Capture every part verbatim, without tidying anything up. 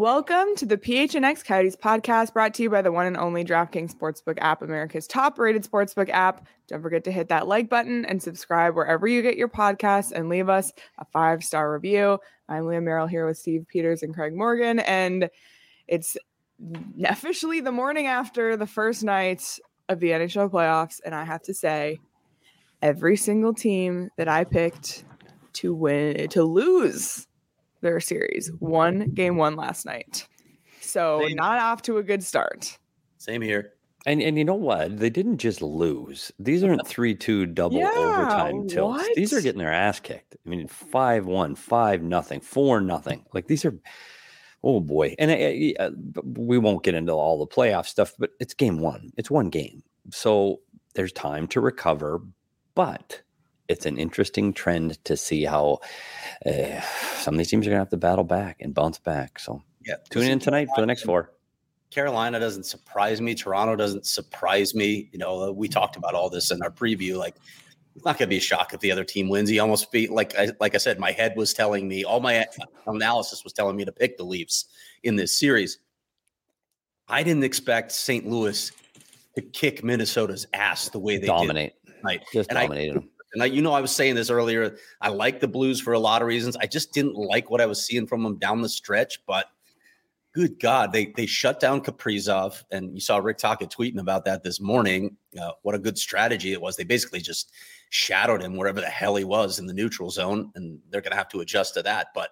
Welcome to the P H N X Coyotes podcast, brought to you by the one and only DraftKings Sportsbook app, America's top-rated sportsbook app. Don't forget to hit that like button and subscribe wherever you get your podcasts and leave us a five-star review. I'm Leah Merrill here with Steve Peters and Craig Morgan, and it's officially the morning after the first night of the N H L playoffs, and I have to say, every single team that I picked to win, to lose their series, won game one last night. So Same. Not off to a good start. Same here. And and you know what? They didn't just lose. These aren't three two double yeah, overtime tilts. What? These are getting their ass kicked. I mean, five one, five nothing, four nothing. Like these are, oh boy. And uh, uh, we won't get into all the playoff stuff, but it's game one. It's one game. So there's time to recover, but it's an interesting trend to see how uh, some of these teams are going to have to battle back and bounce back. So yeah, tune in tonight for the next four. Carolina doesn't surprise me. Toronto doesn't surprise me. You know, we talked about all this in our preview. Like, it's not going to be a shock if the other team wins. He almost be like I, like I said, my head was telling me, all my analysis was telling me to pick the Leafs in this series. I didn't expect Saint Louis to kick Minnesota's ass the way they dominate. did tonight. Just and dominated I, them. And I, you know, I was saying this earlier. I like the Blues for a lot of reasons. I just didn't like what I was seeing from them down the stretch. But good God, they they shut down Kaprizov, and you saw Rick Tocchet tweeting about that this morning. Uh, what a good strategy it was. They basically just shadowed him wherever the hell he was in the neutral zone, and they're going to have to adjust to that. But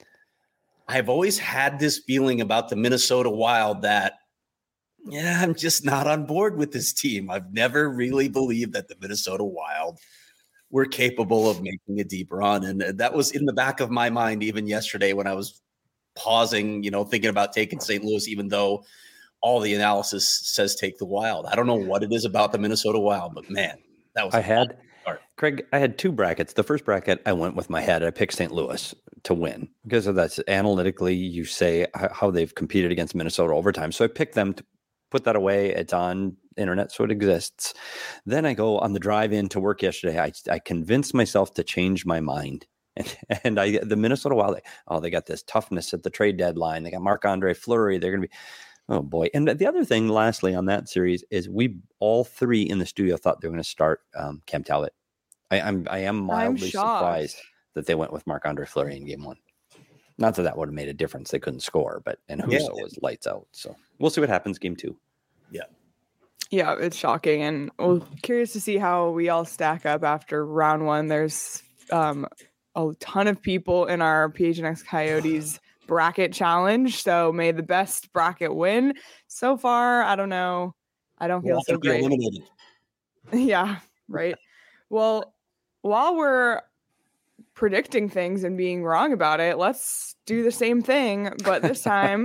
I've always had this feeling about the Minnesota Wild that, yeah, I'm just not on board with this team. I've never really believed that the Minnesota Wild were capable of making a deep run. And that was in the back of my mind even yesterday when I was pausing, you know, thinking about taking Saint Louis, even though all the analysis says take the Wild. I don't know what it is about the Minnesota Wild, but man, that was I had Craig, I had two brackets. The first bracket, I went with my head. I picked Saint Louis to win because of that's analytically, you say how they've competed against Minnesota overtime. So I picked them to put that away. It's on internet, so it exists. Then I go on the drive in to work yesterday. I, I convinced myself to change my mind. And, and I, the Minnesota Wild, oh, they got this toughness at the trade deadline. They got Marc-Andre Fleury. They're going to be, oh boy. And the other thing, lastly, on that series is we all three in the studio thought they were going to start um, Cam Talbot. I, I'm, I am mildly surprised that they went with Marc-Andre Fleury in game one. Not that that would have made a difference. They couldn't score, but and Husso yeah. was lights out. So we'll see what happens game two. Yeah. Yeah, it's shocking. And we're curious to see how we all stack up after round one. There's um, a ton of people in our P H N X Coyotes bracket challenge. So may the best bracket win. So far, I don't know. I don't feel well, so great. Eliminated. Yeah, right. Well, while we're predicting things and being wrong about it, let's do the same thing, but this time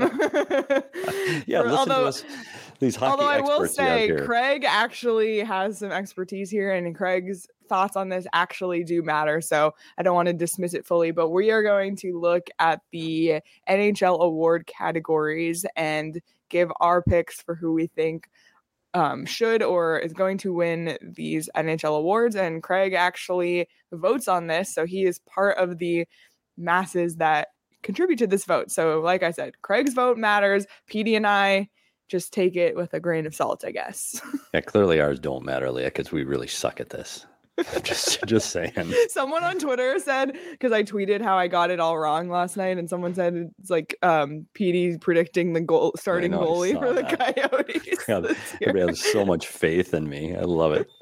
yeah for, listen although, to us, these hockey although I will say here. Craig actually has some expertise here, and Craig's thoughts on this actually do matter, so I don't want to dismiss it fully, but we are going to look at the N H L award categories and give our picks for who we think Um, should or is going to win these N H L awards. And Craig actually votes on this. So he is part of the masses that contribute to this vote. So like I said, Craig's vote matters. Petey and I just take it with a grain of salt, I guess. Yeah, clearly ours don't matter, Leah, because we really suck at this. just just saying. Someone on Twitter said, because I tweeted how I got it all wrong last night, and someone said it's like um Petey predicting the goal starting know, goalie for the that. Coyotes. God, everybody has so much faith in me. I love it.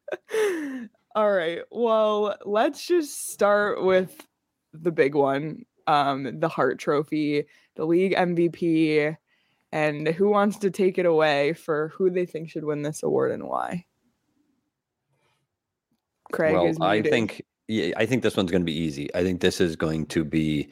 All right. Well, let's just start with the big one. Um, the Hart Trophy, the league M V P, and who wants to take it away for who they think should win this award and why? Craig well, is muted. I think yeah, I think this one's going to be easy. I think this is going to be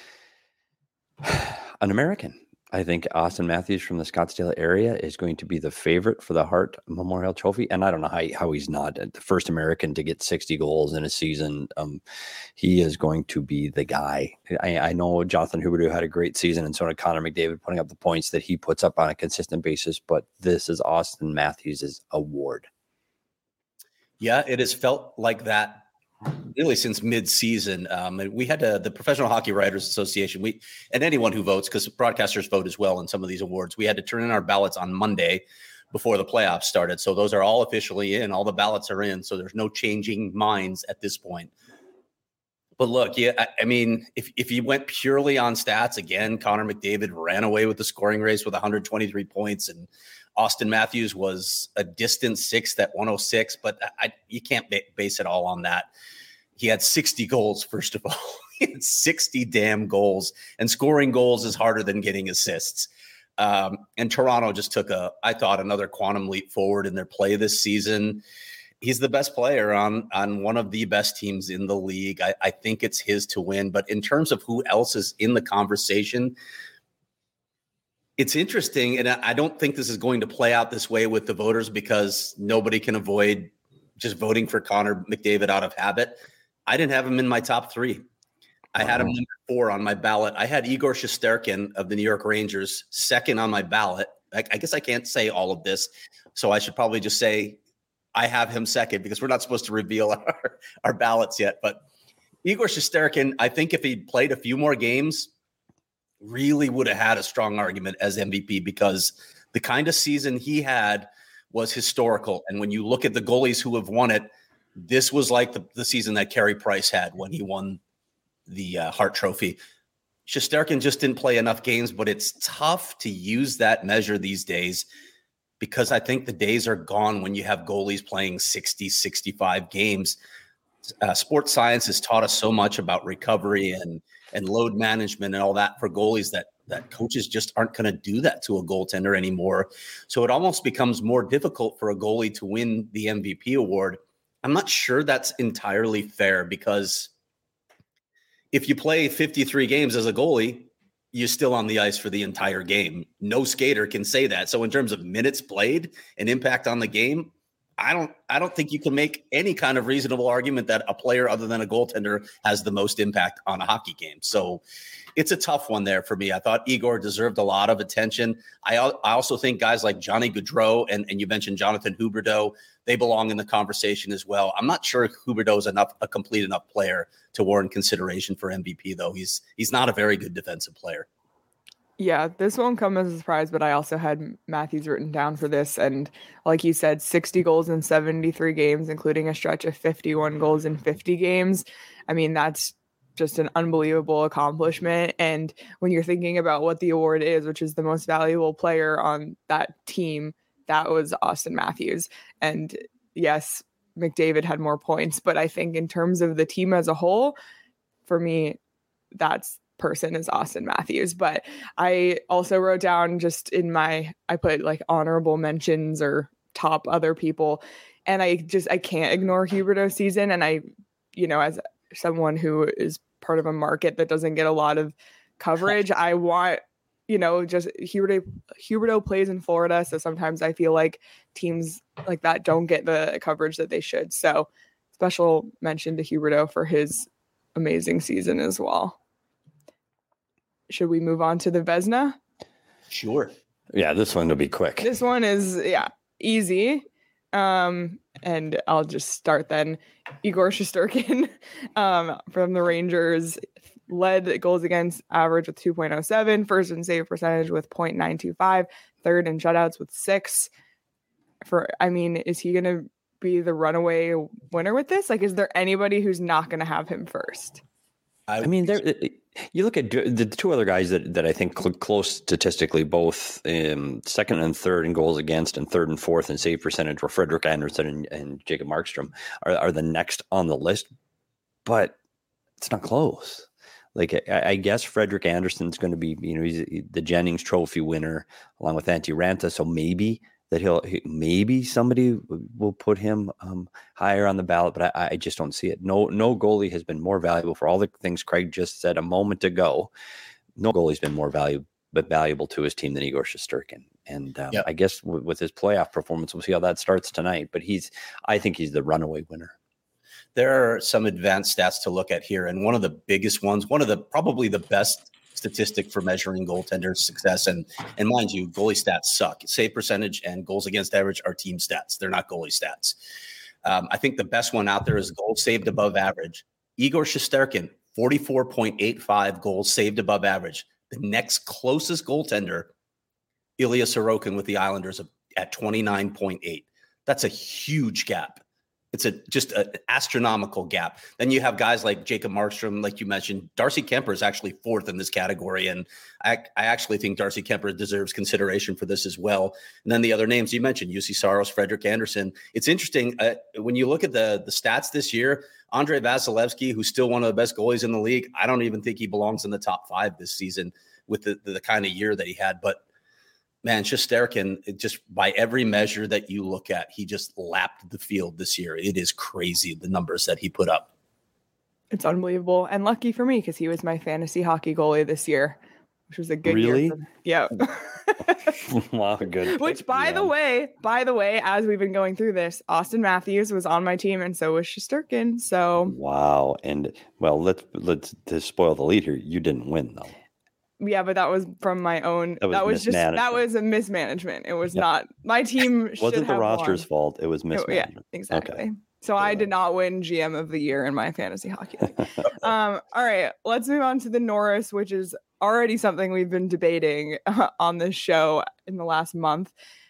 an American. I think Austin Matthews from the Scottsdale area is going to be the favorite for the Hart Memorial Trophy. And I don't know how, how he's not the first American to get sixty goals in a season. Um, he is going to be the guy. I, I know Jonathan Huberdeau had a great season, and so did Connor McDavid, putting up the points that he puts up on a consistent basis. But this is Austin Matthews' award. Yeah, it has felt like that really since mid-season. Um, and we had to, the Professional Hockey Writers Association, we and anyone who votes, because broadcasters vote as well in some of these awards, we had to turn in our ballots on Monday before the playoffs started. So those are all officially in. All the ballots are in. So there's no changing minds at this point. But look, yeah, I, I mean, if, if you went purely on stats, again, Connor McDavid ran away with the scoring race with one hundred twenty-three points, and Austin Matthews was a distant sixth at one oh six, but I, you can't ba- base it all on that. He had sixty goals, first of all. He had sixty damn goals, and scoring goals is harder than getting assists. Um, and Toronto just took a, I thought, another quantum leap forward in their play this season. He's the best player on, on one of the best teams in the league. I, I think it's his to win. But in terms of who else is in the conversation, it's interesting. And I don't think this is going to play out this way with the voters, because nobody can avoid just voting for Connor McDavid out of habit. I didn't have him in my top three. I had him number four on my ballot. I had Igor Shesterkin of the New York Rangers second on my ballot. I, I guess I can't say all of this, so I should probably just say I have him second, because we're not supposed to reveal our, our ballots yet. But Igor Shesterkin, I think if he played a few more games, really would have had a strong argument as M V P, because the kind of season he had was historical. And when you look at the goalies who have won it, this was like the, the season that Carey Price had when he won the uh, Hart Trophy. Shesterkin just didn't play enough games, but it's tough to use that measure these days, because I think the days are gone when you have goalies playing sixty, sixty-five games. Uh, sports science has taught us so much about recovery and, and load management and all that for goalies that, that coaches just aren't going to do that to a goaltender anymore. So it almost becomes more difficult for a goalie to win the M V P award. I'm not sure that's entirely fair, because if you play fifty-three games as a goalie, you're still on the ice for the entire game. No skater can say that. So in terms of minutes played and impact on the game, I don't I don't think you can make any kind of reasonable argument that a player other than a goaltender has the most impact on a hockey game. So it's a tough one there for me. I thought Igor deserved a lot of attention. I, I also think guys like Johnny Gaudreau and, and you mentioned Jonathan Huberdeau, they belong in the conversation as well. I'm not sure if Huberdeau is enough a complete enough player to warrant consideration for M V P, though. He's he's not a very good defensive player. Yeah, this won't come as a surprise, but I also had Matthews written down for this. And like you said, sixty goals in seventy-three games, including a stretch of fifty-one goals in fifty games. I mean, that's just an unbelievable accomplishment. And when you're thinking about what the award is, which is the most valuable player on that team, that was Austin Matthews. And yes, McDavid had more points, but I think in terms of the team as a whole, for me, that's person is Austin Matthews. But I also wrote down just in my, I put like honorable mentions or top other people. And I just, I can't ignore Huberdeau's season. And I, you know, as someone who is part of a market that doesn't get a lot of coverage, I want, you know, just Huberdeau, Huberdeau plays in Florida. So sometimes I feel like teams like that don't get the coverage that they should. So special mention to Huberdeau for his amazing season as well. Should we move on to the Vezina? Sure. Yeah, this one will be quick. This one is, yeah, easy. Um, and I'll just start then. Igor Shesterkin um, from the Rangers led goals against average with two point oh seven, first in save percentage with point nine two five, third in shutouts with six. For, I mean, is he going to be the runaway winner with this? Like, is there anybody who's not going to have him first? I, I mean, there. You look at the two other guys that, that I think cl- close statistically, both um, second and third in goals against and third and fourth in save percentage, were Frederik Andersen and, and Jacob Markstrom are, are the next on the list, but it's not close. Like, I, I guess Frederik Andersen's going to be, you know, he's the Jennings Trophy winner along with Antti Raanta, so maybe that he'll he, maybe somebody will put him um, higher on the ballot, but I, I just don't see it. No, no goalie has been more valuable for all the things Craig just said a moment ago. No goalie's been more valuable, but valuable to his team than Igor Shesterkin. And um, yep. I guess w- with his playoff performance, we'll see how that starts tonight. But he's, I think he's the runaway winner. There are some advanced stats to look at here, and one of the biggest ones, one of the probably the best statistic for measuring goaltender success. And, and mind you, goalie stats suck. Save percentage and goals against average are team stats. They're not goalie stats. Um, I think the best one out there is goals saved above average. Igor Shesterkin, forty-four point eight five goals saved above average. The next closest goaltender, Ilya Sorokin with the Islanders at twenty-nine point eight. That's a huge gap. It's a just an astronomical gap. Then you have guys like Jacob Markstrom, like you mentioned. Darcy Kemper is actually fourth in this category, and I, I actually think Darcy Kemper deserves consideration for this as well. And then the other names you mentioned, U C Saros, Frederick Anderson. It's interesting uh, when you look at the the stats this year. Andrei Vasilevsky, who's still one of the best goalies in the league, I don't even think he belongs in the top five this season with the the, the kind of year that he had. But man, Shesterkin, just by every measure that you look at, he just lapped the field this year. It is crazy, the numbers that he put up. It's unbelievable. And lucky for me, because he was my fantasy hockey goalie this year, which was a good really? year. For, yeah. Wow, good. Which, by yeah. the way, by the way, as we've been going through this, Austin Matthews was on my team, and so was Shesterkin. So wow. And well, let's let's to spoil the lead here. You didn't win though. Yeah, but that was from my own. That was, that was just that was a mismanagement. It was yep. not my team. Should wasn't have the roster's won. fault. It was mismanagement. Yeah, exactly. Okay. So I did not win G M of the year in my fantasy hockey league. um, all right, let's move on to the Norris, which is already something we've been debating uh, on this show in the last month.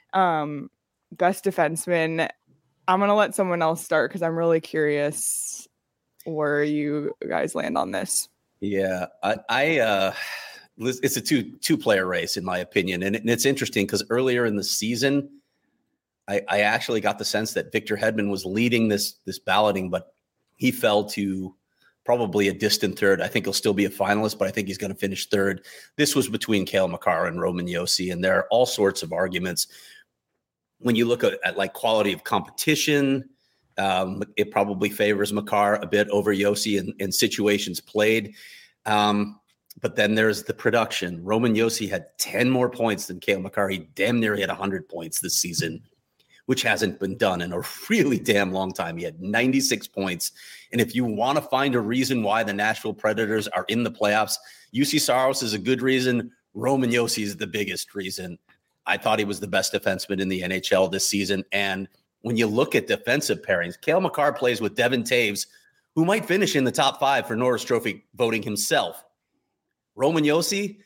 Um, best defenseman. I'm gonna let someone else start because I'm really curious where you guys land on this. Yeah, I. I uh... It's a two two player race, in my opinion. And, it, and it's interesting because earlier in the season, I, I actually got the sense that Victor Hedman was leading this this balloting, but he fell to probably a distant third. I think he'll still be a finalist, but I think he's going to finish third. This was between Cale Makar and Roman Josi, and there are all sorts of arguments. When you look at, at like quality of competition, um, it probably favors Makar a bit over Josi in, in situations played. Um, But then there's the production. Roman Josi had ten more points than Cale Makar. He damn near had one hundred points this season, which hasn't been done in a really damn long time. He had ninety-six points. And if you want to find a reason why the Nashville Predators are in the playoffs, U C Saros is a good reason. Roman Josi is the biggest reason. I thought he was the best defenseman in the N H L this season. And when you look at defensive pairings, Cale Makar plays with Devin Taves, who might finish in the top five for Norris Trophy voting himself. Roman Josi,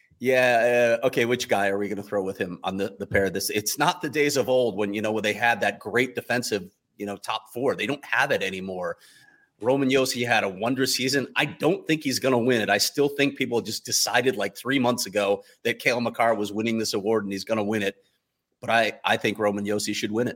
yeah, uh, okay, which guy are we going to throw with him on the, the pair of this? It's not the days of old when, you know, when they had that great defensive, you know, top four. They don't have it anymore. Roman Josi had a wondrous season. I don't think he's going to win it. I still think people just decided like three months ago that Cale Makar was winning this award and he's going to win it. But I, I think Roman Josi should win it.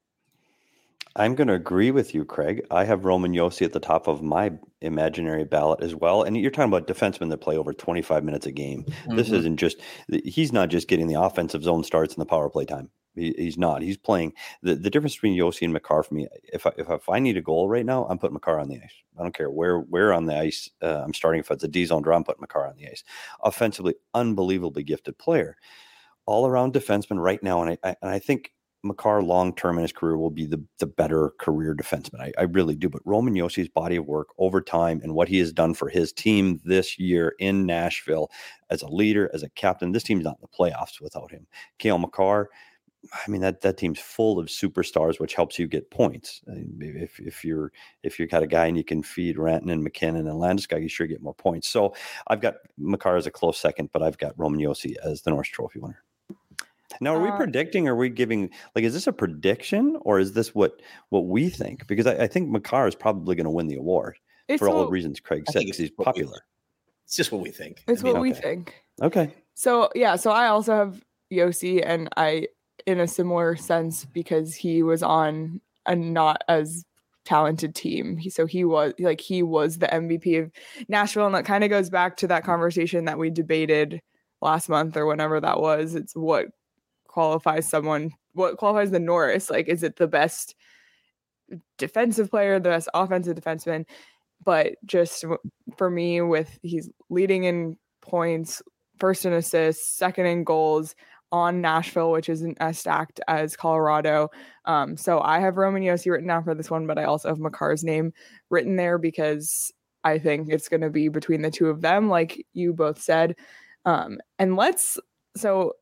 I'm going to agree with you, Craig. I have Roman Josi at the top of my imaginary ballot as well. And you're talking about defensemen that play over twenty-five minutes a game. Mm-hmm. This isn't just, he's not just getting the offensive zone starts in the power play time. He, he's not. He's playing. The, the difference between Josi and Makar for me, if I, if, if I need a goal right now, I'm putting Makar on the ice. I don't care where where on the ice uh, I'm starting. If it's a D-zone draw, I'm putting Makar on the ice. Offensively, unbelievably gifted player. All around defenseman right now. And I, I, and I think Makar long-term in his career will be the, the better career defenseman. I, I really do. But Roman Josi's body of work over time and what he has done for his team this year in Nashville as a leader, as a captain, this team's not in the playoffs without him. Cale Makar, I mean, that, that team's full of superstars, which helps you get points. I mean, if if you're if you've got a guy and you can feed Rantanen and McKinnon and Landeskog, you sure get more points. So I've got Makar as a close second, but I've got Roman Josi as the Norris Trophy winner. Now, are we uh, predicting? Are we giving like? Is this a prediction or is this what what we think? Because I, I think Makar is probably going to win the award for all what, the reasons Craig said because he's popular. It's just what we think. It's I mean, what okay. we think. Okay. So yeah, so I also have Josi, and I in a similar sense because he was on a not as talented team. He, so he was like he was the M V P of Nashville, and that kind of goes back to that conversation that we debated last month or whenever that was. It's what qualifies someone, what qualifies the Norris? Like, is it the best defensive player, the best offensive defenseman? But just for me, with he's leading in points, first in assists, second in goals on Nashville, which isn't as stacked as Colorado. Um, so I have Roman Josi written down for this one, but I also have Makar's name written there because I think it's going to be between the two of them, like you both said. Um, and let's, so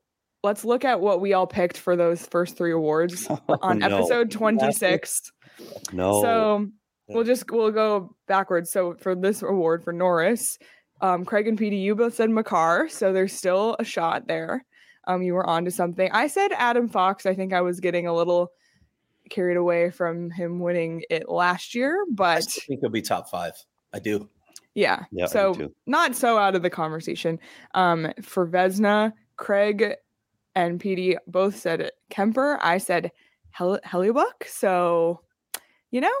let's look at what we all picked for those first three awards Oh, on no. episode twenty-six. No. So we'll just we'll go backwards. So for this award for Norris, um, Craig and P D, you both said Makar, so there's still a shot there. Um, you were on to something. I said Adam Fox. I think I was getting a little carried away from him winning it last year, but I still think he'll be top five. I do. Yeah. Yeah, I do so too. not so out of the conversation. Um, for Vesna, Craig and P D both said Kemper. I said Hel- Hellebuyck. So, you know,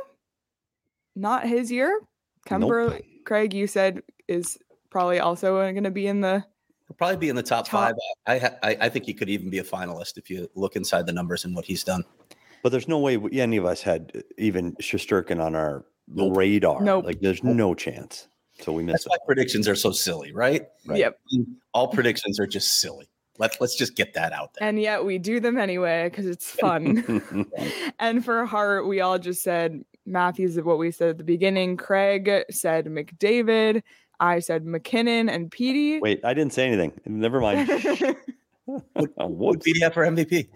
not his year. Kemper, Nope. Craig, you said is probably also going to be in the He'll probably be in the top, Top. five. I, ha- I I think he could even be a finalist if you look inside the numbers and what he's done. But there's no way we, any of us had even Shesterkin on our Nope. radar. Nope. Like there's no chance. So we missed That's why it. predictions are so silly, right? Right. Yep. All predictions are just silly. Let's let's just get that out there. And yet we do them anyway because it's fun. And for Hart, we all just said Matthews, what we said at the beginning. Craig said McDavid. I said McKinnon and Petey. Wait, I didn't say anything. Never mind. What Oh, would whoops. P D F for M V P?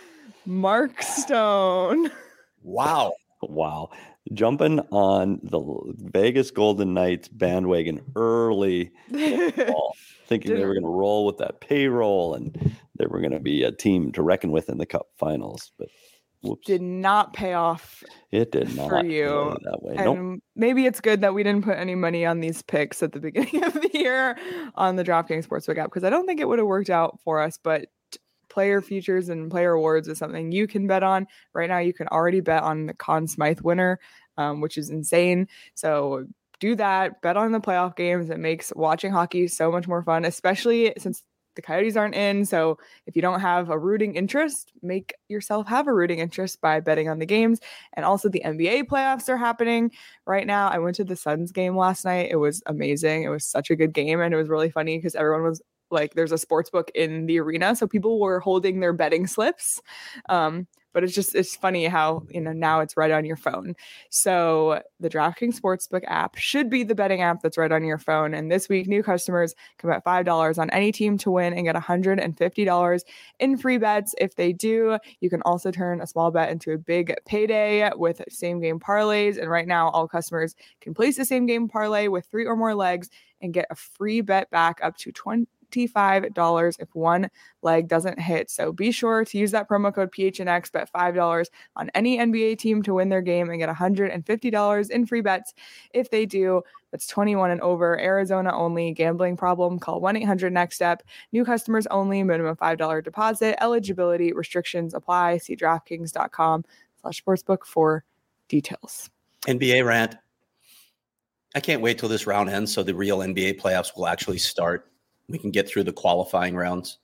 Mark Stone. Wow. Wow. Jumping on the Vegas Golden Knights bandwagon early, fall, thinking they were going to roll with that payroll and they were going to be a team to reckon with in the Cup Finals. But whoops, Did not pay off. it did not for you. play that way. And Nope. maybe it's good that we didn't put any money on these picks at the beginning of the year on the DraftKings Sportsbook app because I don't think it would have worked out for us. But player futures and player awards is something you can bet on. Right now, you can already bet on the Conn Smythe winner, um, which is insane. So do that. Bet on the playoff games. It makes watching hockey so much more fun, especially since the Coyotes aren't in. So if you don't have a rooting interest, make yourself have a rooting interest by betting on the games. And also the N B A playoffs are happening right now. I went to the Suns game last night. It was amazing. It was such a good game. And it was really funny because everyone was like, there's a sports book in the arena. So people were holding their betting slips. Um, but it's just, it's funny how, you know, now it's right on your phone. So the DraftKings Sportsbook app should be the betting app that's right on your phone. And this week, new customers can bet five dollars on any team to win and get one hundred fifty dollars in free bets. If they do, you can also turn a small bet into a big payday with same game parlays. And right now, all customers can place the same game parlay with three or more legs and get a free bet back up to twenty-five dollars if one leg doesn't hit. So be sure to use that promo code P H N X, bet five dollars on any N B A team to win their game and get one hundred fifty dollars in free bets. If they do, that's twenty-one and over, Arizona only, gambling problem, call one eight hundred next step. New customers only, minimum five dollars deposit, eligibility restrictions apply. See DraftKings.com slash sportsbook for details. N B A rant. I can't wait till this round ends so the real N B A playoffs will actually start. We can get through the qualifying rounds.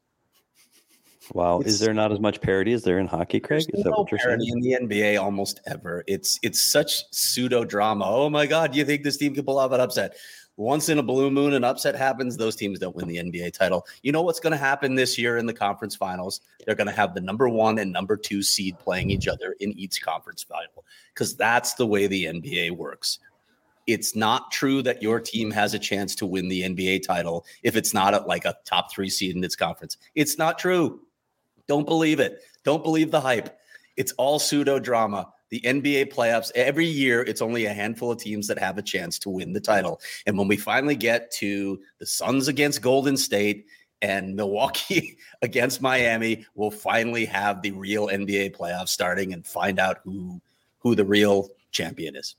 Wow. It's- Is there not as much parity as there in hockey, Craig? There's Is that no what you're saying? parity in the N B A almost ever. It's it's such pseudo drama. Oh my God, you think this team can pull off an upset? Once in a blue moon, an upset happens. Those teams don't win the N B A title. You know what's going to happen this year in the conference finals? They're going to have the number one and number two seed playing each other in each conference final because that's the way the N B A works. It's not true that your team has a chance to win the N B A title if it's not at like a top three seed in its conference. It's not true. Don't believe it. Don't believe the hype. It's all pseudo drama. The N B A playoffs, every year, it's only a handful of teams that have a chance to win the title. And when we finally get to the Suns against Golden State and Milwaukee against Miami, we'll finally have the real N B A playoffs starting and find out who, who the real champion is.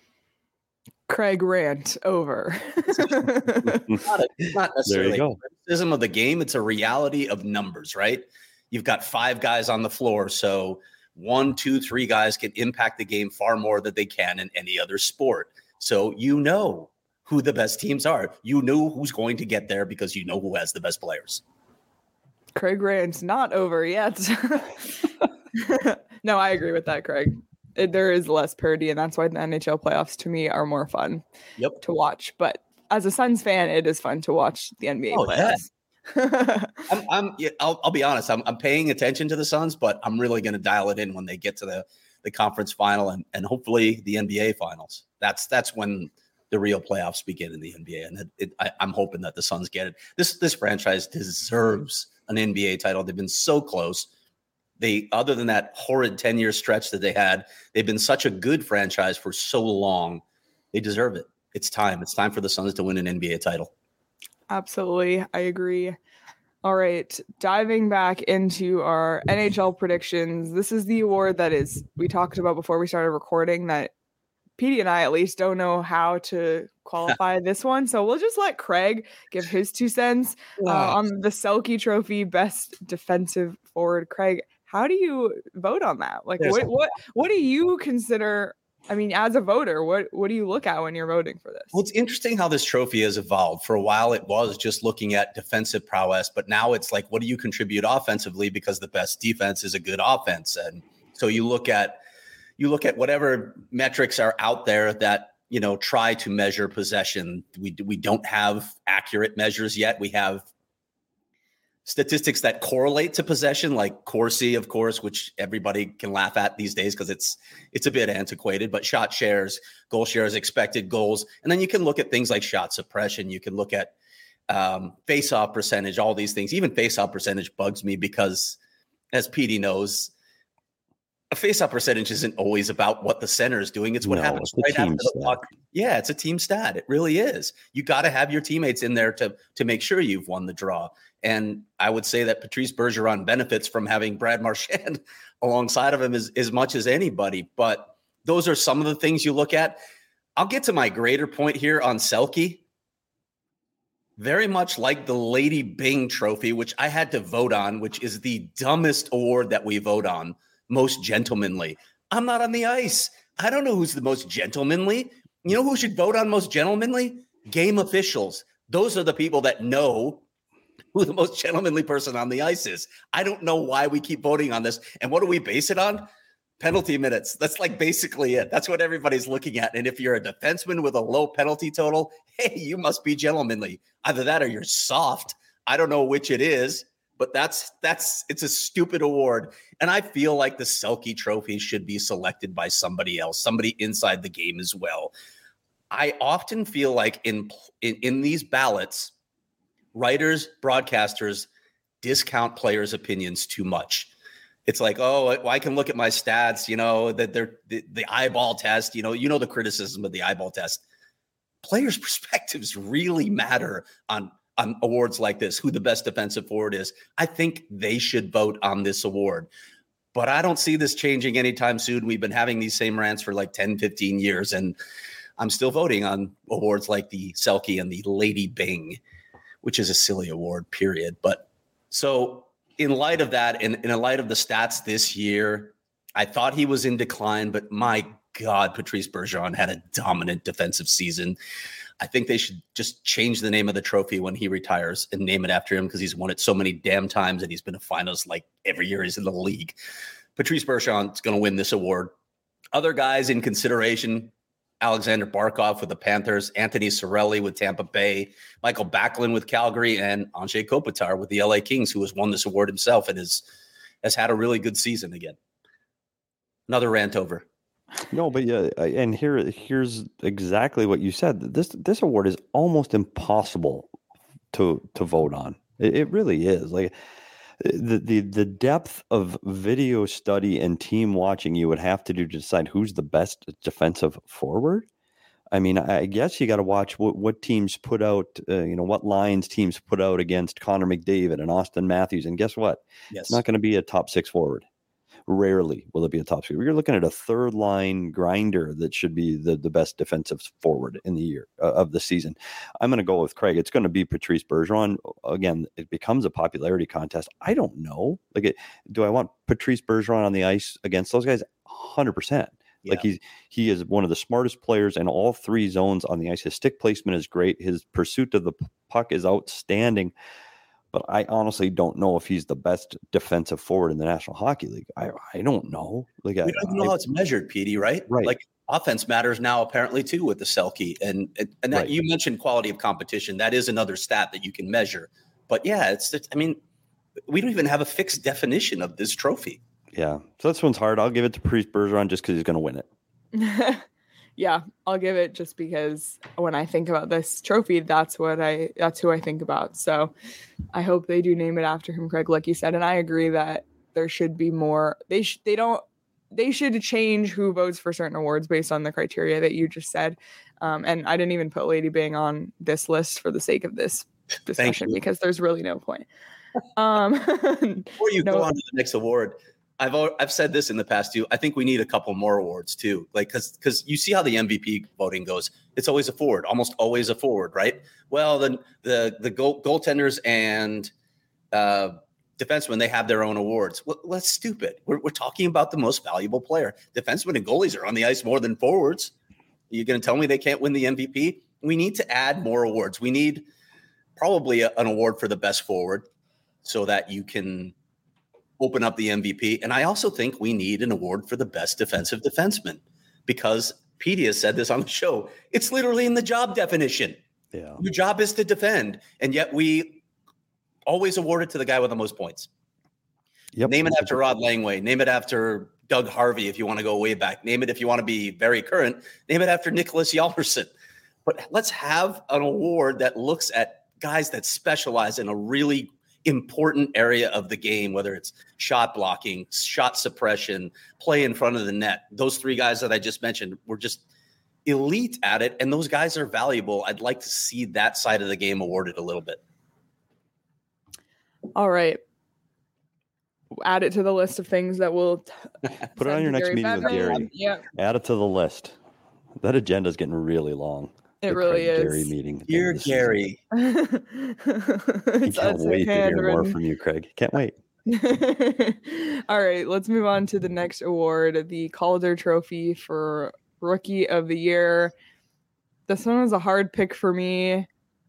Craig rant over. It's not, a, it's not necessarily go. a criticism of the game. It's a reality of numbers, right? You've got five guys on the floor. So one, two, three guys can impact the game far more than they can in any other sport. So you know who the best teams are. You know who's going to get there because you know who has the best players. Craig rant's not over yet. No, I agree with that, Craig. It, there is less parity, and that's why the N H L playoffs to me are more fun Yep. to watch. But as a Suns fan, it is fun to watch the N B A Oh, yeah. playoffs. I'm, I'm yeah, I'll, I'll be honest. I'm, I'm paying attention to the Suns, but I'm really going to dial it in when they get to the, the conference final and, and hopefully the N B A finals. That's that's when the real playoffs begin in the N B A, and it, it, I, I'm hoping that the Suns get it. This this franchise deserves an N B A title. They've been so close. They, other than that horrid ten-year stretch that they had, they've been such a good franchise for so long. They deserve it. It's time. It's time for the Suns to win an N B A title. Absolutely. I agree. All right. Diving back into our N H L predictions. This is the award that is, we talked about before we started recording, that Petey and I at least don't know how to qualify this one. So we'll just let Craig give his two cents uh, on the Selke Trophy Best Defensive Forward. Craig, how do you vote on that? Like, what, what, what do you consider? I mean, as a voter, what, what do you look at when you're voting for this? Well, it's interesting how this trophy has evolved. For a while, it was just looking at defensive prowess, but now it's like, what do you contribute offensively? Because the best defense is a good offense. And so you look at, you look at whatever metrics are out there that, you know, try to measure possession. We, we don't have accurate measures yet. We have statistics that correlate to possession, like Corsi, of course, which everybody can laugh at these days because it's it's a bit antiquated, but shot shares, goal shares, expected goals. And then you can look at things like shot suppression. You can look at um, face-off percentage, all these things. Even face-off percentage bugs me because, as Petey knows, a face-off percentage isn't always about what the center is doing. It's what No, happens it's right a team after the puck. Yeah, it's a team stat. It really is. You got to have your teammates in there to to make sure you've won the draw. And I would say that Patrice Bergeron benefits from having Brad Marchand alongside of him as, as much as anybody. But those are some of the things you look at. I'll get to my greater point here on Selke. Very much like the Lady Byng Trophy, which I had to vote on, which is the dumbest award that we vote on, most gentlemanly. I'm not on the ice. I don't know who's the most gentlemanly. You know who should vote on most gentlemanly? Game officials. Those are the people that know who the most gentlemanly person on the ice is. I don't know why we keep voting on this. And what do we base it on? Penalty minutes. That's like basically it. That's what everybody's looking at. And if you're a defenseman with a low penalty total, hey, you must be gentlemanly. Either that or you're soft. I don't know which it is, but that's that's it's a stupid award. And I feel like the Selke Trophy should be selected by somebody else, somebody inside the game as well. I often feel like in in, in these ballots, writers, broadcasters discount players' opinions too much. It's like, oh, I can look at my stats, you know, that they're the, the eyeball test, you know, you know, the criticism of the eyeball test. Players' perspectives really matter on, on awards like this, who the best defensive forward is. I think they should vote on this award. But I don't see this changing anytime soon. We've been having these same rants for like ten, fifteen years, and I'm still voting on awards like the Selke and the Lady Byng, which is a silly award, period. But so in light of that, and in, in light of the stats this year, I thought he was in decline, but my God, Patrice Bergeron had a dominant defensive season. I think they should just change the name of the trophy when he retires and name it after him because he's won it so many damn times and he's been a finalist like every year he's in the league. Patrice Bergeron is going to win this award. Other guys in consideration: Alexander Barkov with the Panthers, Anthony Cirelli with Tampa Bay, Michael Backlund with Calgary, and Anze Kopitar with the L A Kings, who has won this award himself and is, has had a really good season again. Another rant over. No, but yeah, and here here's exactly what you said. This this award is almost impossible to to vote on. It, it really is. Like the, the the depth of video study and team watching you would have to do to decide who's the best defensive forward. I mean, I guess you got to watch what, what teams put out, uh, you know, what lines teams put out against Connor McDavid and Austin Matthews. And guess what? Yes. It's not going to be a top six forward. Rarely will it be a top six. You're looking at a third line grinder that should be the, the best defensive forward in the year uh, of the season. I'm going to go with Craig. It's going to be Patrice Bergeron. Again, it becomes a popularity contest. I don't know. Like, it, do I want Patrice Bergeron on the ice against those guys? one hundred percent. Yeah. Like he's he is one of the smartest players in all three zones on the ice. His stick placement is great. His pursuit of the puck is outstanding. But I honestly don't know if he's the best defensive forward in the National Hockey League. I I don't know. Like we I, don't even know I, how it's measured, Petey, right? Right. Like offense matters now apparently too with the Selke. And and that, right. You mentioned quality of competition. That is another stat that you can measure. But yeah, it's, it's I mean, we don't even have a fixed definition of this trophy. Yeah. So this one's hard. I'll give it to Patrice Bergeron just because he's going to win it. yeah, I'll give it just because when I think about this trophy, that's what I that's who I think about. So I hope they do name it after him, Craig, like you said. And I agree that there should be more. They sh- they don't they should change who votes for certain awards based on the criteria that you just said. Um, and I didn't even put Lady Byng on this list for the sake of this discussion because there's really no point. Um, Before you no, go on to the next award, I've I've said this in the past too. I think we need a couple more awards too, like because because you see how the M V P voting goes. It's always a forward, almost always a forward, right? Well, then the the goal, goaltenders and uh, defensemen, they have their own awards. Well, that's stupid. We're we're talking about the most valuable player. Defensemen and goalies are on the ice more than forwards. Are you going to tell me they can't win the M V P? We need to add more awards. We need probably a, an award for the best forward so that you can open up the M V P. And I also think we need an award for the best defensive defenseman because Petey has said this on the show. It's literally in the job definition. Yeah. Your job is to defend. And yet we always award it to the guy with the most points. Yep. Name it after Rod Langway. Name it after Doug Harvey if you want to go way back. Name it if you want to be very current. Name it after Nicholas Hjalmarsson. But let's have an award that looks at guys that specialize in a really important area of the game, whether it's shot blocking, shot suppression, play in front of the net. Those three guys that I just mentioned were just elite at it, and those guys are valuable. I'd like to see that side of the game awarded a little bit. All right. Add it to the list of things that we'll t- put it on your next Gary meeting Bettman. with Gary. Yeah. Add it to the list. That agenda is getting really long. It the really Craig is. Gary meeting. Dear Gary. You can't wait to hear more from you, Craig. Can't wait. All right, let's move on to the next award, the Calder Trophy for Rookie of the Year. This one was a hard pick for me.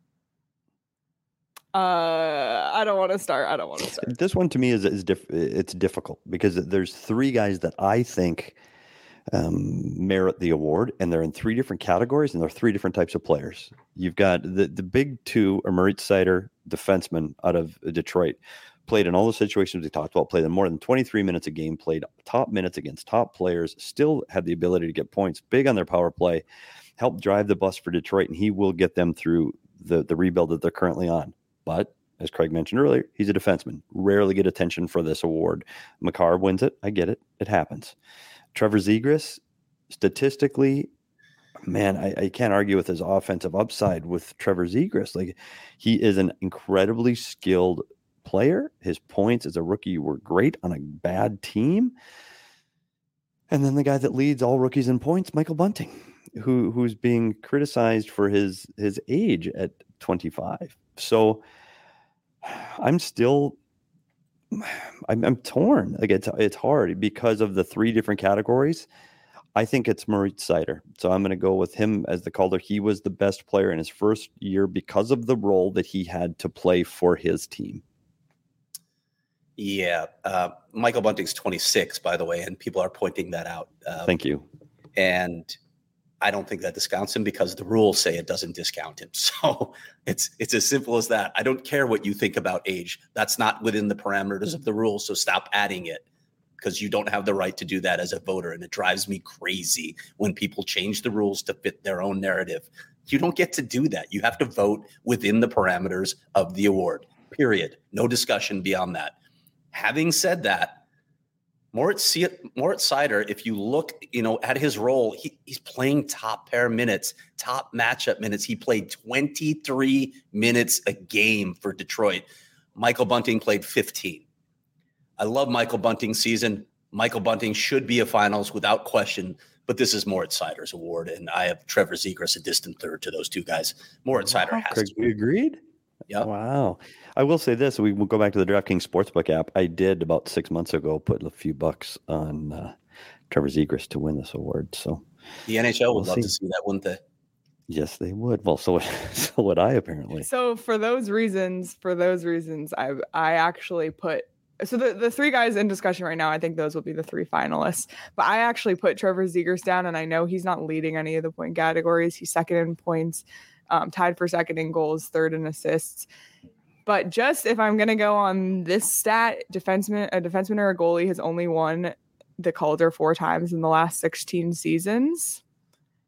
Uh, I don't want to start. I don't want to start. This one to me is is diff- it's difficult because there's three guys that I think um, merit the award, and they're in three different categories, and they're three different types of players. You've got the the big two, are Moritz Seider, defenseman out of Detroit, played in all the situations we talked about, played in more than twenty-three minutes a game, played top minutes against top players, still had the ability to get points, big on their power play, helped drive the bus for Detroit, and he will get them through the the rebuild that they're currently on. But as Craig mentioned earlier, he's a defenseman. Rarely get attention for this award. Makar wins it. I get it. It happens. Trevor Zegras, statistically, man, I, I can't argue with his offensive upside with Trevor Zegras. Like, he is an incredibly skilled player. His points as a rookie were great on a bad team. And then the guy that leads all rookies in points, Michael Bunting, who who's being criticized for his his age at twenty-five. So I'm still, I'm, I'm torn. Like it's it's hard because of the three different categories. I think it's Moritz Seider. So I'm going to go with him as the Calder. He was the best player in his first year because of the role that he had to play for his team. Yeah. Uh, Michael Bunting's twenty-six, by the way, and people are pointing that out. Um, Thank you. And I don't think that discounts him because the rules say it doesn't discount him. So it's it's as simple as that. I don't care what you think about age. That's not within the parameters of the rules. So stop adding it because you don't have the right to do that as a voter. And it drives me crazy when people change the rules to fit their own narrative. You don't get to do that. You have to vote within the parameters of the award, period. No discussion beyond that. Having said that, Moritz, Moritz Seider, if you look, you know, at his role, he, he's playing top pair minutes, top matchup minutes. He played twenty-three minutes a game for Detroit. Michael Bunting played fifteen. I love Michael Bunting's season. Michael Bunting should be a finals without question, but this is Moritz Seider's award, and I have Trevor Zegras a distant third to those two guys. Moritz Seider Wow, has Craig, to. we agreed? Yeah. Wow. I will say this. We will go back to the DraftKings Sportsbook app. I did about six months ago put a few bucks on uh, Trevor Zegras to win this award. So the N H L would we'll love see. to see that, wouldn't they? Yes, they would. Well, so, so would I, apparently. So for those reasons, for those reasons, I I actually put so the, the three guys in discussion right now, I think those will be the three finalists. But I actually put Trevor Zegras down, and I know he's not leading any of the point categories. He's second in points, um, tied for second in goals, third in assists. But just if I'm going to go on this stat, defenseman, a defenseman or a goalie has only won the Calder four times in the last sixteen seasons.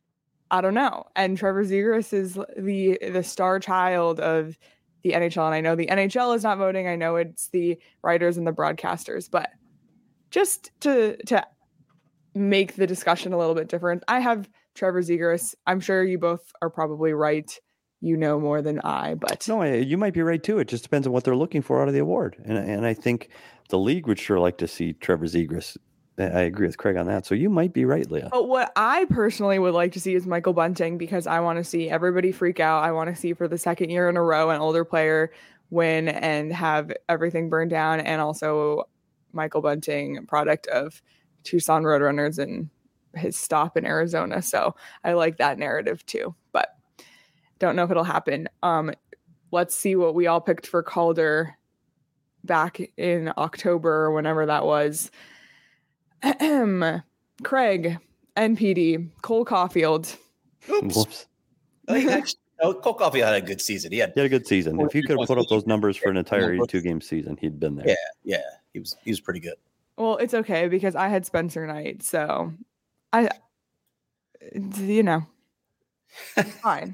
I don't know. And Trevor Zegras is the the star child of the N H L. And I know the N H L is not voting. I know it's the writers and the broadcasters. But just to to make the discussion a little bit different, I have Trevor Zegras. I'm sure you both are probably right. You know more than I, but no, I, you might be right too. It just depends on what they're looking for out of the award. And and I think the league would sure like to see Trevor Zegras. I agree with Craig on that. So you might be right, Leah. But what I personally would like to see is Michael Bunting, because I want to see everybody freak out. I want to see for the second year in a row an older player win and have everything burned down. And also Michael Bunting, product of Tucson Roadrunners and his stop in Arizona. So I like that narrative too, but don't know if it'll happen. Um, let's see what we all picked for Calder back in October or whenever that was. Craig, N P D, Cole Caulfield. Oops. Whoops. I think actually, no, Cole Caulfield had a good season. He had, he had a good season. If you could have put up those numbers for an entire eighty-two game season, he'd been there. Yeah, yeah, he was he was pretty good. Well, it's okay because I had Spencer Knight, so I, you know, fine.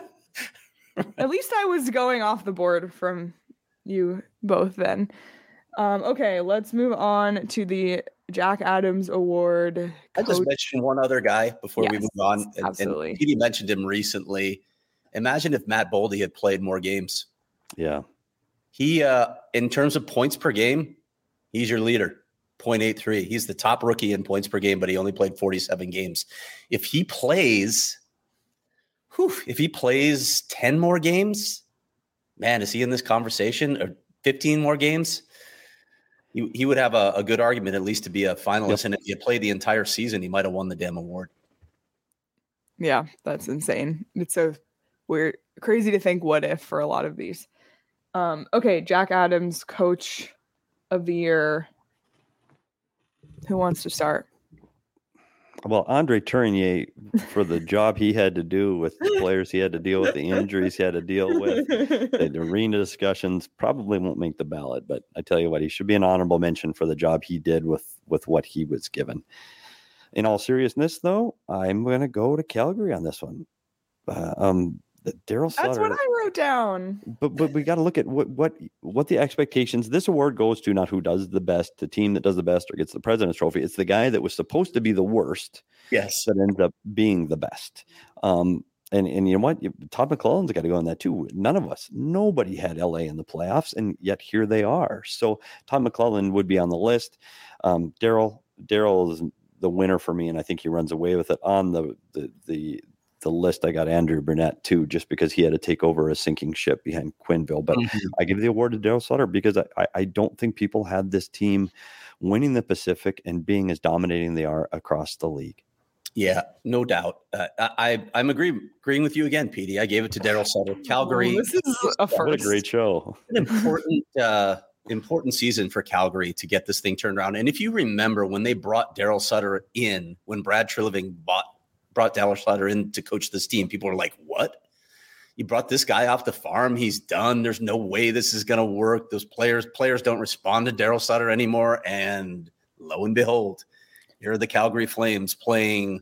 At least I was going off the board from you both then. Um, okay, let's move on to the Jack Adams Award. I just mentioned one other guy before yes, we move on. And, absolutely. And Petey mentioned him recently. Imagine if Matt Boldy had played more games. Yeah. He, uh, in terms of points per game, he's your leader, zero point eight three. He's the top rookie in points per game, but he only played forty-seven games. If he plays, whew, if he plays ten more games, man, is he in this conversation? Or fifteen more games? He, he would have a, a good argument, at least to be a finalist. Yep. And if you play the entire season, he might have won the damn award. Yeah, that's insane. It's so weird, crazy to think what if for a lot of these. Um, okay, Jack Adams, Coach of the Year. Who wants to start? Well, Andre Tournier, for the job he had to do with the players he had to deal with, the injuries he had to deal with, the arena discussions, probably won't make the ballot. But I tell you what, he should be an honorable mention for the job he did with, with what he was given. In all seriousness, though, I'm going to go to Calgary on this one. Uh, um, Daryl Sutter. That's what I wrote down. But but we got to look at what what what the expectations. This award goes to not who does the best, the team that does the best or gets the President's Trophy. It's the guy that was supposed to be the worst, yes, that ends up being the best. Um, and and you know what? Todd McLellan's got to go on that too. None of us, nobody had L A in the playoffs, and yet here they are. So Todd McLellan would be on the list. Um, Daryl Daryl is the winner for me, and I think he runs away with it on the the the. the list. I got Andrew Burnett too, just because he had to take over a sinking ship behind Quenneville. But mm-hmm. I give the award to Daryl Sutter because I, I don't think people had this team winning the Pacific and being as dominating they are across the league. Yeah, no doubt. Uh, I, I'm agree, agreeing with you again, Petey. I gave it to Daryl Sutter. Calgary. Oh, this is a first. What a great show. An important, uh, important season for Calgary to get this thing turned around. And if you remember when they brought Daryl Sutter in, when Brad Treliving bought brought Daryl Sutter in to coach this team, people were like, what? You brought this guy off the farm. He's done. There's no way this is going to work. Those players, players don't respond to Daryl Sutter anymore. And lo and behold, here are the Calgary Flames playing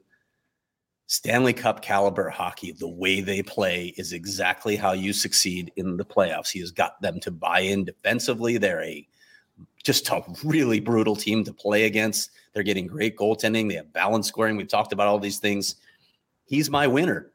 Stanley Cup caliber hockey. The way they play is exactly how you succeed in the playoffs. He has got them to buy in defensively. They're a just a really brutal team to play against. They're getting great goaltending. They have balanced scoring. We've talked about all these things. He's my winner.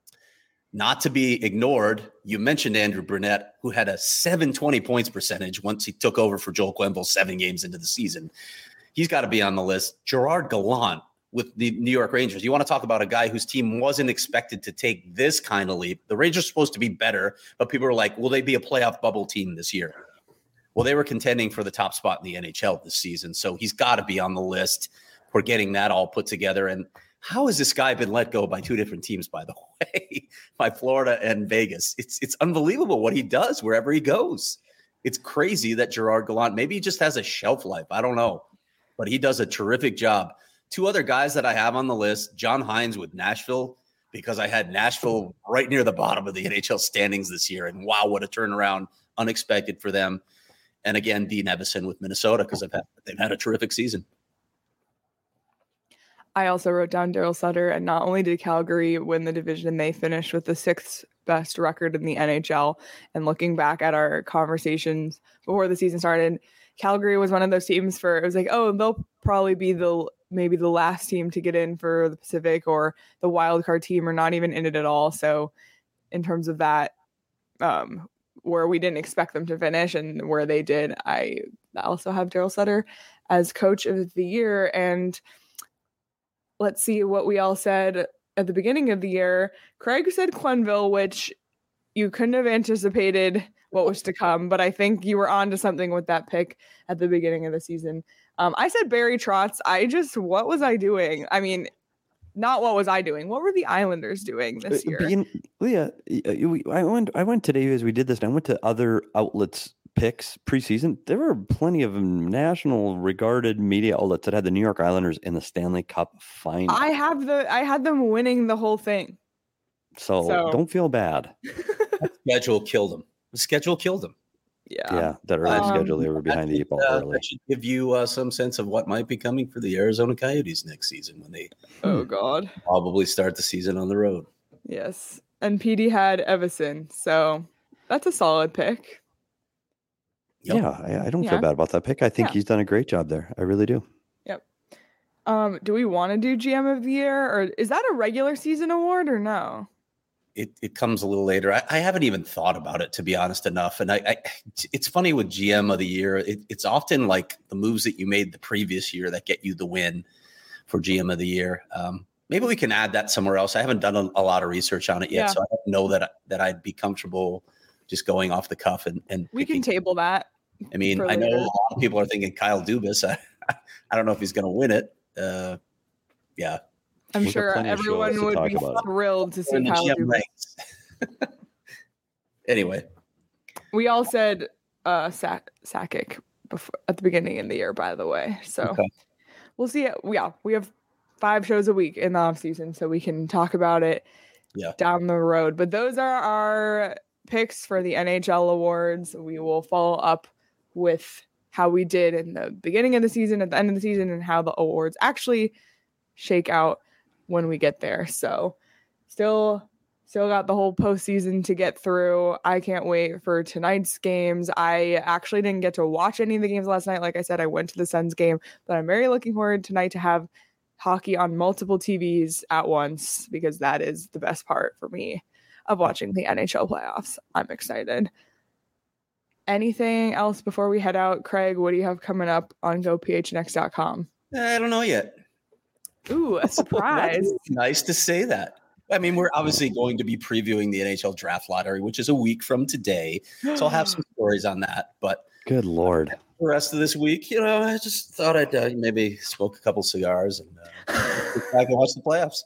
Not to be ignored, you mentioned Andrew Burnett, who had a seven twenty points percentage once he took over for Joel Quenneville seven games into the season. He's got to be on the list. Gerard Gallant with the New York Rangers. You want to talk about a guy whose team wasn't expected to take this kind of leap. The Rangers are supposed to be better, but people are like, will they be a playoff bubble team this year? Well, they were contending for the top spot in the N H L this season, so he's got to be on the list for getting that all put together. And how has this guy been let go by two different teams, by the way, by Florida and Vegas? It's it's unbelievable what he does wherever he goes. It's crazy that Gerard Gallant, maybe he just has a shelf life. I don't know, but he does a terrific job. Two other guys that I have on the list, John Hines with Nashville, because I had Nashville right near the bottom of the N H L standings this year. And wow, what a turnaround, unexpected for them. And again, Dean Evason with Minnesota, because they've had, they've had a terrific season. I also wrote down Daryl Sutter, and not only did Calgary win the division, they finished with the sixth best record in the N H L. And looking back at our conversations before the season started, Calgary was one of those teams for, it was like, oh, they'll probably be the maybe the last team to get in for the Pacific or the wild card team, or not even in it at all. So in terms of that, um, where we didn't expect them to finish and where they did, I also have Daryl Sutter as coach of the year. And let's see what we all said at the beginning of the year. Craig said Quenneville, which you couldn't have anticipated what was to come, but I think you were on to something with that pick at the beginning of the season. Um, I said Barry Trotz. I just, what was I doing? I mean, not what was I doing? What were the Islanders doing this year? Being, Leah, I went. I went today as we did this, and I went to other outlets' picks preseason. There were plenty of national regarded media outlets that had the New York Islanders in the Stanley Cup final. I have the. I had them winning the whole thing. So, so. don't feel bad. The schedule killed them. The schedule killed them. Yeah, yeah. That early um, schedule, they were behind the eight ball uh, early. That should give you uh, some sense of what might be coming for the Arizona Coyotes next season when they oh god probably start the season on the road. Yes, and P D had Evison, so that's a solid pick. Yep. Yeah, I, I don't yeah. feel bad about that pick. I think yeah. he's done a great job there. I really do. Yep. Um, do we want to do G M of the year, or is that a regular season award, or no? It, it comes a little later. I, I haven't even thought about it, to be honest enough. And I, I it's funny with G M of the year. It, it's often like the moves that you made the previous year that get you the win for G M of the year. Um, maybe we can add that somewhere else. I haven't done a, a lot of research on it yet, yeah. so I don't know that that I'd be comfortable just going off the cuff and and we picking. Can table that. I mean, I know later. A lot of people are thinking Kyle Dubas. I, I don't know if he's going to win it. Uh, yeah. I'm We've sure everyone would be thrilled to see Kyle Dubas. Anyway, we all said uh, Sack Sakic before at the beginning of the year, by the way. So okay. We'll see. Yeah, we have five shows a week in the off season, so we can talk about it yeah. down the road. But those are our picks for the N H L awards. We will follow up with how we did in the beginning of the season, at the end of the season, and how the awards actually shake out when we get there. So still still got the whole postseason to get through. I can't wait for tonight's games. I actually didn't get to watch any of the games last night. Like I said, I went to the Suns game, but I'm very looking forward tonight to have hockey on multiple T Vs at once, because that is the best part for me of watching the N H L playoffs. I'm excited. Anything else before we head out? Craig, what do you have coming up on go p h n x dot com? I don't know yet. Ooh, a surprise. Nice to say that. I mean, we're obviously going to be previewing the N H L draft lottery, which is a week from today. So I'll have some stories on that. But good Lord. The rest of this week, you know, I just thought I'd uh, maybe smoke a couple cigars and uh, get back and watch the playoffs.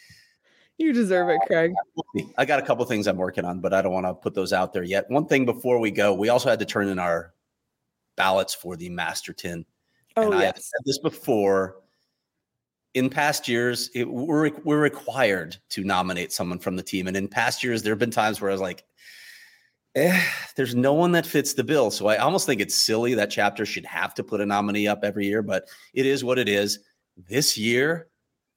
You deserve it, Craig. I got a couple things I'm working on, but I don't want to put those out there yet. One thing before we go, we also had to turn in our ballots for the Masterton. Oh, and yes. I have said this before. In past years, it, we're, we're required to nominate someone from the team. And in past years, there have been times where I was like, eh, there's no one that fits the bill. So I almost think it's silly that Chapter should have to put a nominee up every year, but it is what it is. This year,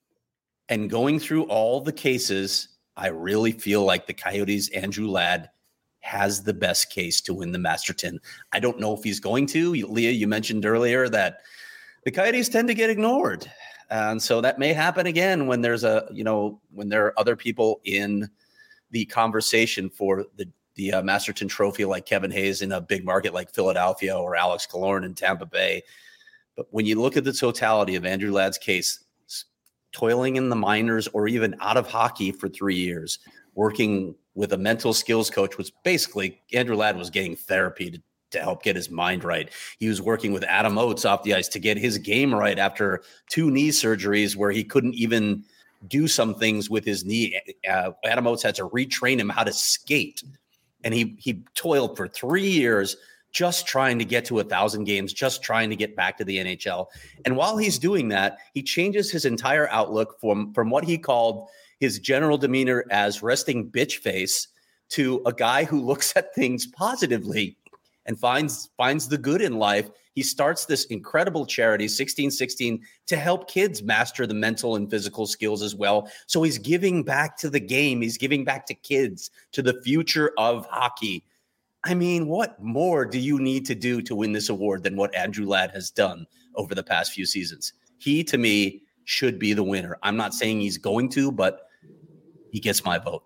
and going through all the cases, I really feel like the Coyotes' Andrew Ladd has the best case to win the Masterton. I don't know if he's going to. Leah, you mentioned earlier that the Coyotes tend to get ignored. And so that may happen again when there's a, you know, when there are other people in the conversation for the, the uh, Masterton Trophy, like Kevin Hayes in a big market like Philadelphia or Alex Killorn in Tampa Bay. But when you look at the totality of Andrew Ladd's case, toiling in the minors or even out of hockey for three years, working with a mental skills coach, which basically Andrew Ladd was getting therapy to to help get his mind right. He was working with Adam Oates off the ice to get his game right after two knee surgeries where he couldn't even do some things with his knee. Uh, Adam Oates had to retrain him how to skate. And he he toiled for three years just trying to get to a thousand games, just trying to get back to the N H L. And while he's doing that, he changes his entire outlook from, from what he called his general demeanor as resting bitch face to a guy who looks at things positively. and finds finds the good in life. He starts this incredible charity, sixteen sixteen, to help kids master the mental and physical skills as well. So he's giving back to the game. He's giving back to kids, to the future of hockey. I mean, what more do you need to do to win this award than what Andrew Ladd has done over the past few seasons? He, to me, should be the winner. I'm not saying he's going to, but he gets my vote.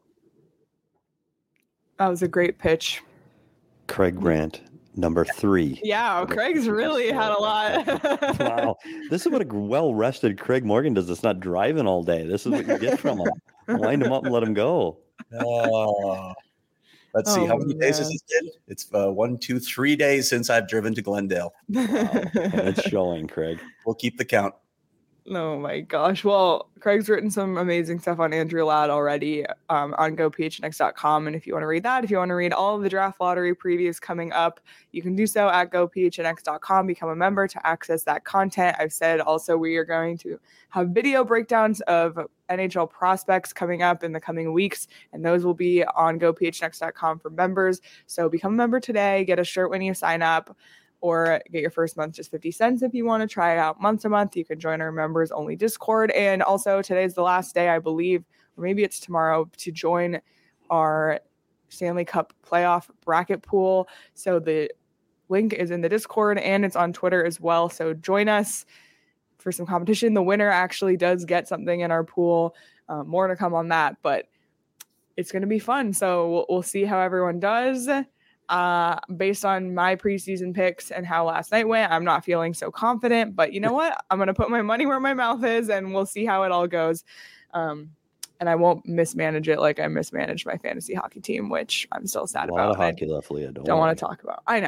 That was a great pitch. Craig Grant, number three. Yeah, Craig's really had a lot. Wow. This is what a well-rested Craig Morgan does. It's not driving all day. This is what you get from him. Wind him up and let him go. Oh. Let's see. Oh, How many days has man. this been? It's uh, one, two, three days since I've driven to Glendale. Wow. And it's showing, Craig. We'll keep the count. Oh my gosh. Well, Craig's written some amazing stuff on Andrew Ladd already um, on go p h n x dot com. And if you want to read that, if you want to read all of the draft lottery previews coming up, you can do so at go p h n x dot com. Become a member to access that content. I've said also we are going to have video breakdowns of N H L prospects coming up in the coming weeks, and those will be on go p h n x dot com for members. So become a member today. Get a shirt when you sign up. Or get your first month just fifty cents if you want to try it out month to month. You can join our members only Discord. And also today's the last day, I believe, or maybe it's tomorrow, to join our Stanley Cup playoff bracket pool. So the link is in the Discord and it's on Twitter as well. So join us for some competition. The winner actually does get something in our pool. Uh, more to come on that, but it's going to be fun. So we'll, we'll see how everyone does. Uh, based on my preseason picks and how last night went, I'm not feeling so confident, but you know what? I'm going to put my money where my mouth is and we'll see how it all goes. Um, and I won't mismanage it like I mismanaged my fantasy hockey team, which I'm still sad A about. lot of hockey left, Leah. Don't, Don't worry. want to talk about. I know.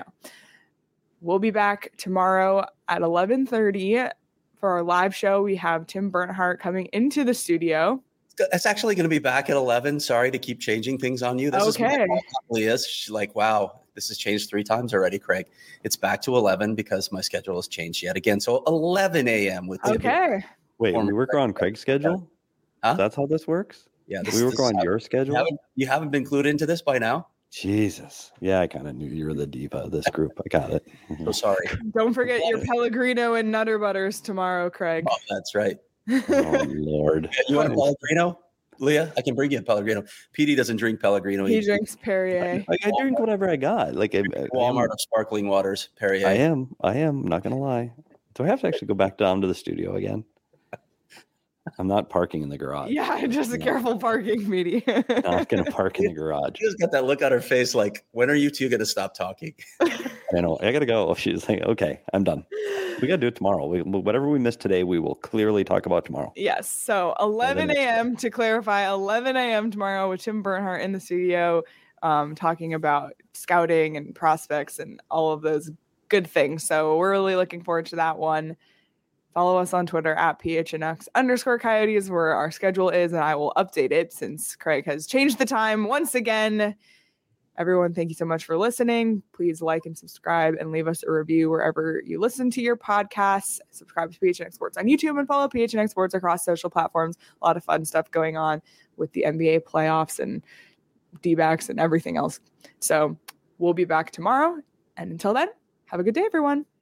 We'll be back tomorrow at eleven thirty for our live show. We have Tim Bernhardt coming into the studio. It's actually going to be back at eleven. Sorry to keep changing things on you. This Okay. is what Leah is. She's like, wow, this has changed three times already, Craig. It's back to eleven because my schedule has changed yet again. So eleven a.m. with Leah. Okay. Wait, we work on Craig's schedule? Huh? That's how this works? Yeah, this, We work this on is- your You schedule? haven't, you haven't been clued into this by now? Jesus. Yeah, I kind of knew you were the diva of this group. I got it. So sorry. Don't forget your Pellegrino and Nutter Butters tomorrow, Craig. Oh, that's right. Oh, Lord. You want a Pellegrino? Leah, I can bring you a Pellegrino. P D doesn't drink Pellegrino. He drinks Perrier. Like, I drink whatever I got. Like I, I, Walmart of sparkling waters, Perrier. I am. I am. I'm not going to lie. Do I have to actually go back down to the studio again? I'm not parking in the garage. Yeah, just a No. careful parking, meetie. Not going to park in the garage. She just got that look on her face like, when are you two going to stop talking? I know. I got to go. She's like, okay, I'm done. We got to do it tomorrow. We, whatever we missed today, we will clearly talk about tomorrow. Yes. So eleven a.m. to clarify, eleven a.m. tomorrow with Tim Bernhardt in the studio, um, talking about scouting and prospects and all of those good things. So we're really looking forward to that one. Follow us on Twitter at P H N X underscore Coyotes, where our schedule is, and I will update it since Craig has changed the time once again. Everyone, thank you so much for listening. Please like and subscribe and leave us a review wherever you listen to your podcasts. Subscribe to P H N X Sports on YouTube and follow P H N X Sports across social platforms. A lot of fun stuff going on with the N B A playoffs and D-backs and everything else. So we'll be back tomorrow. And until then, have a good day, everyone.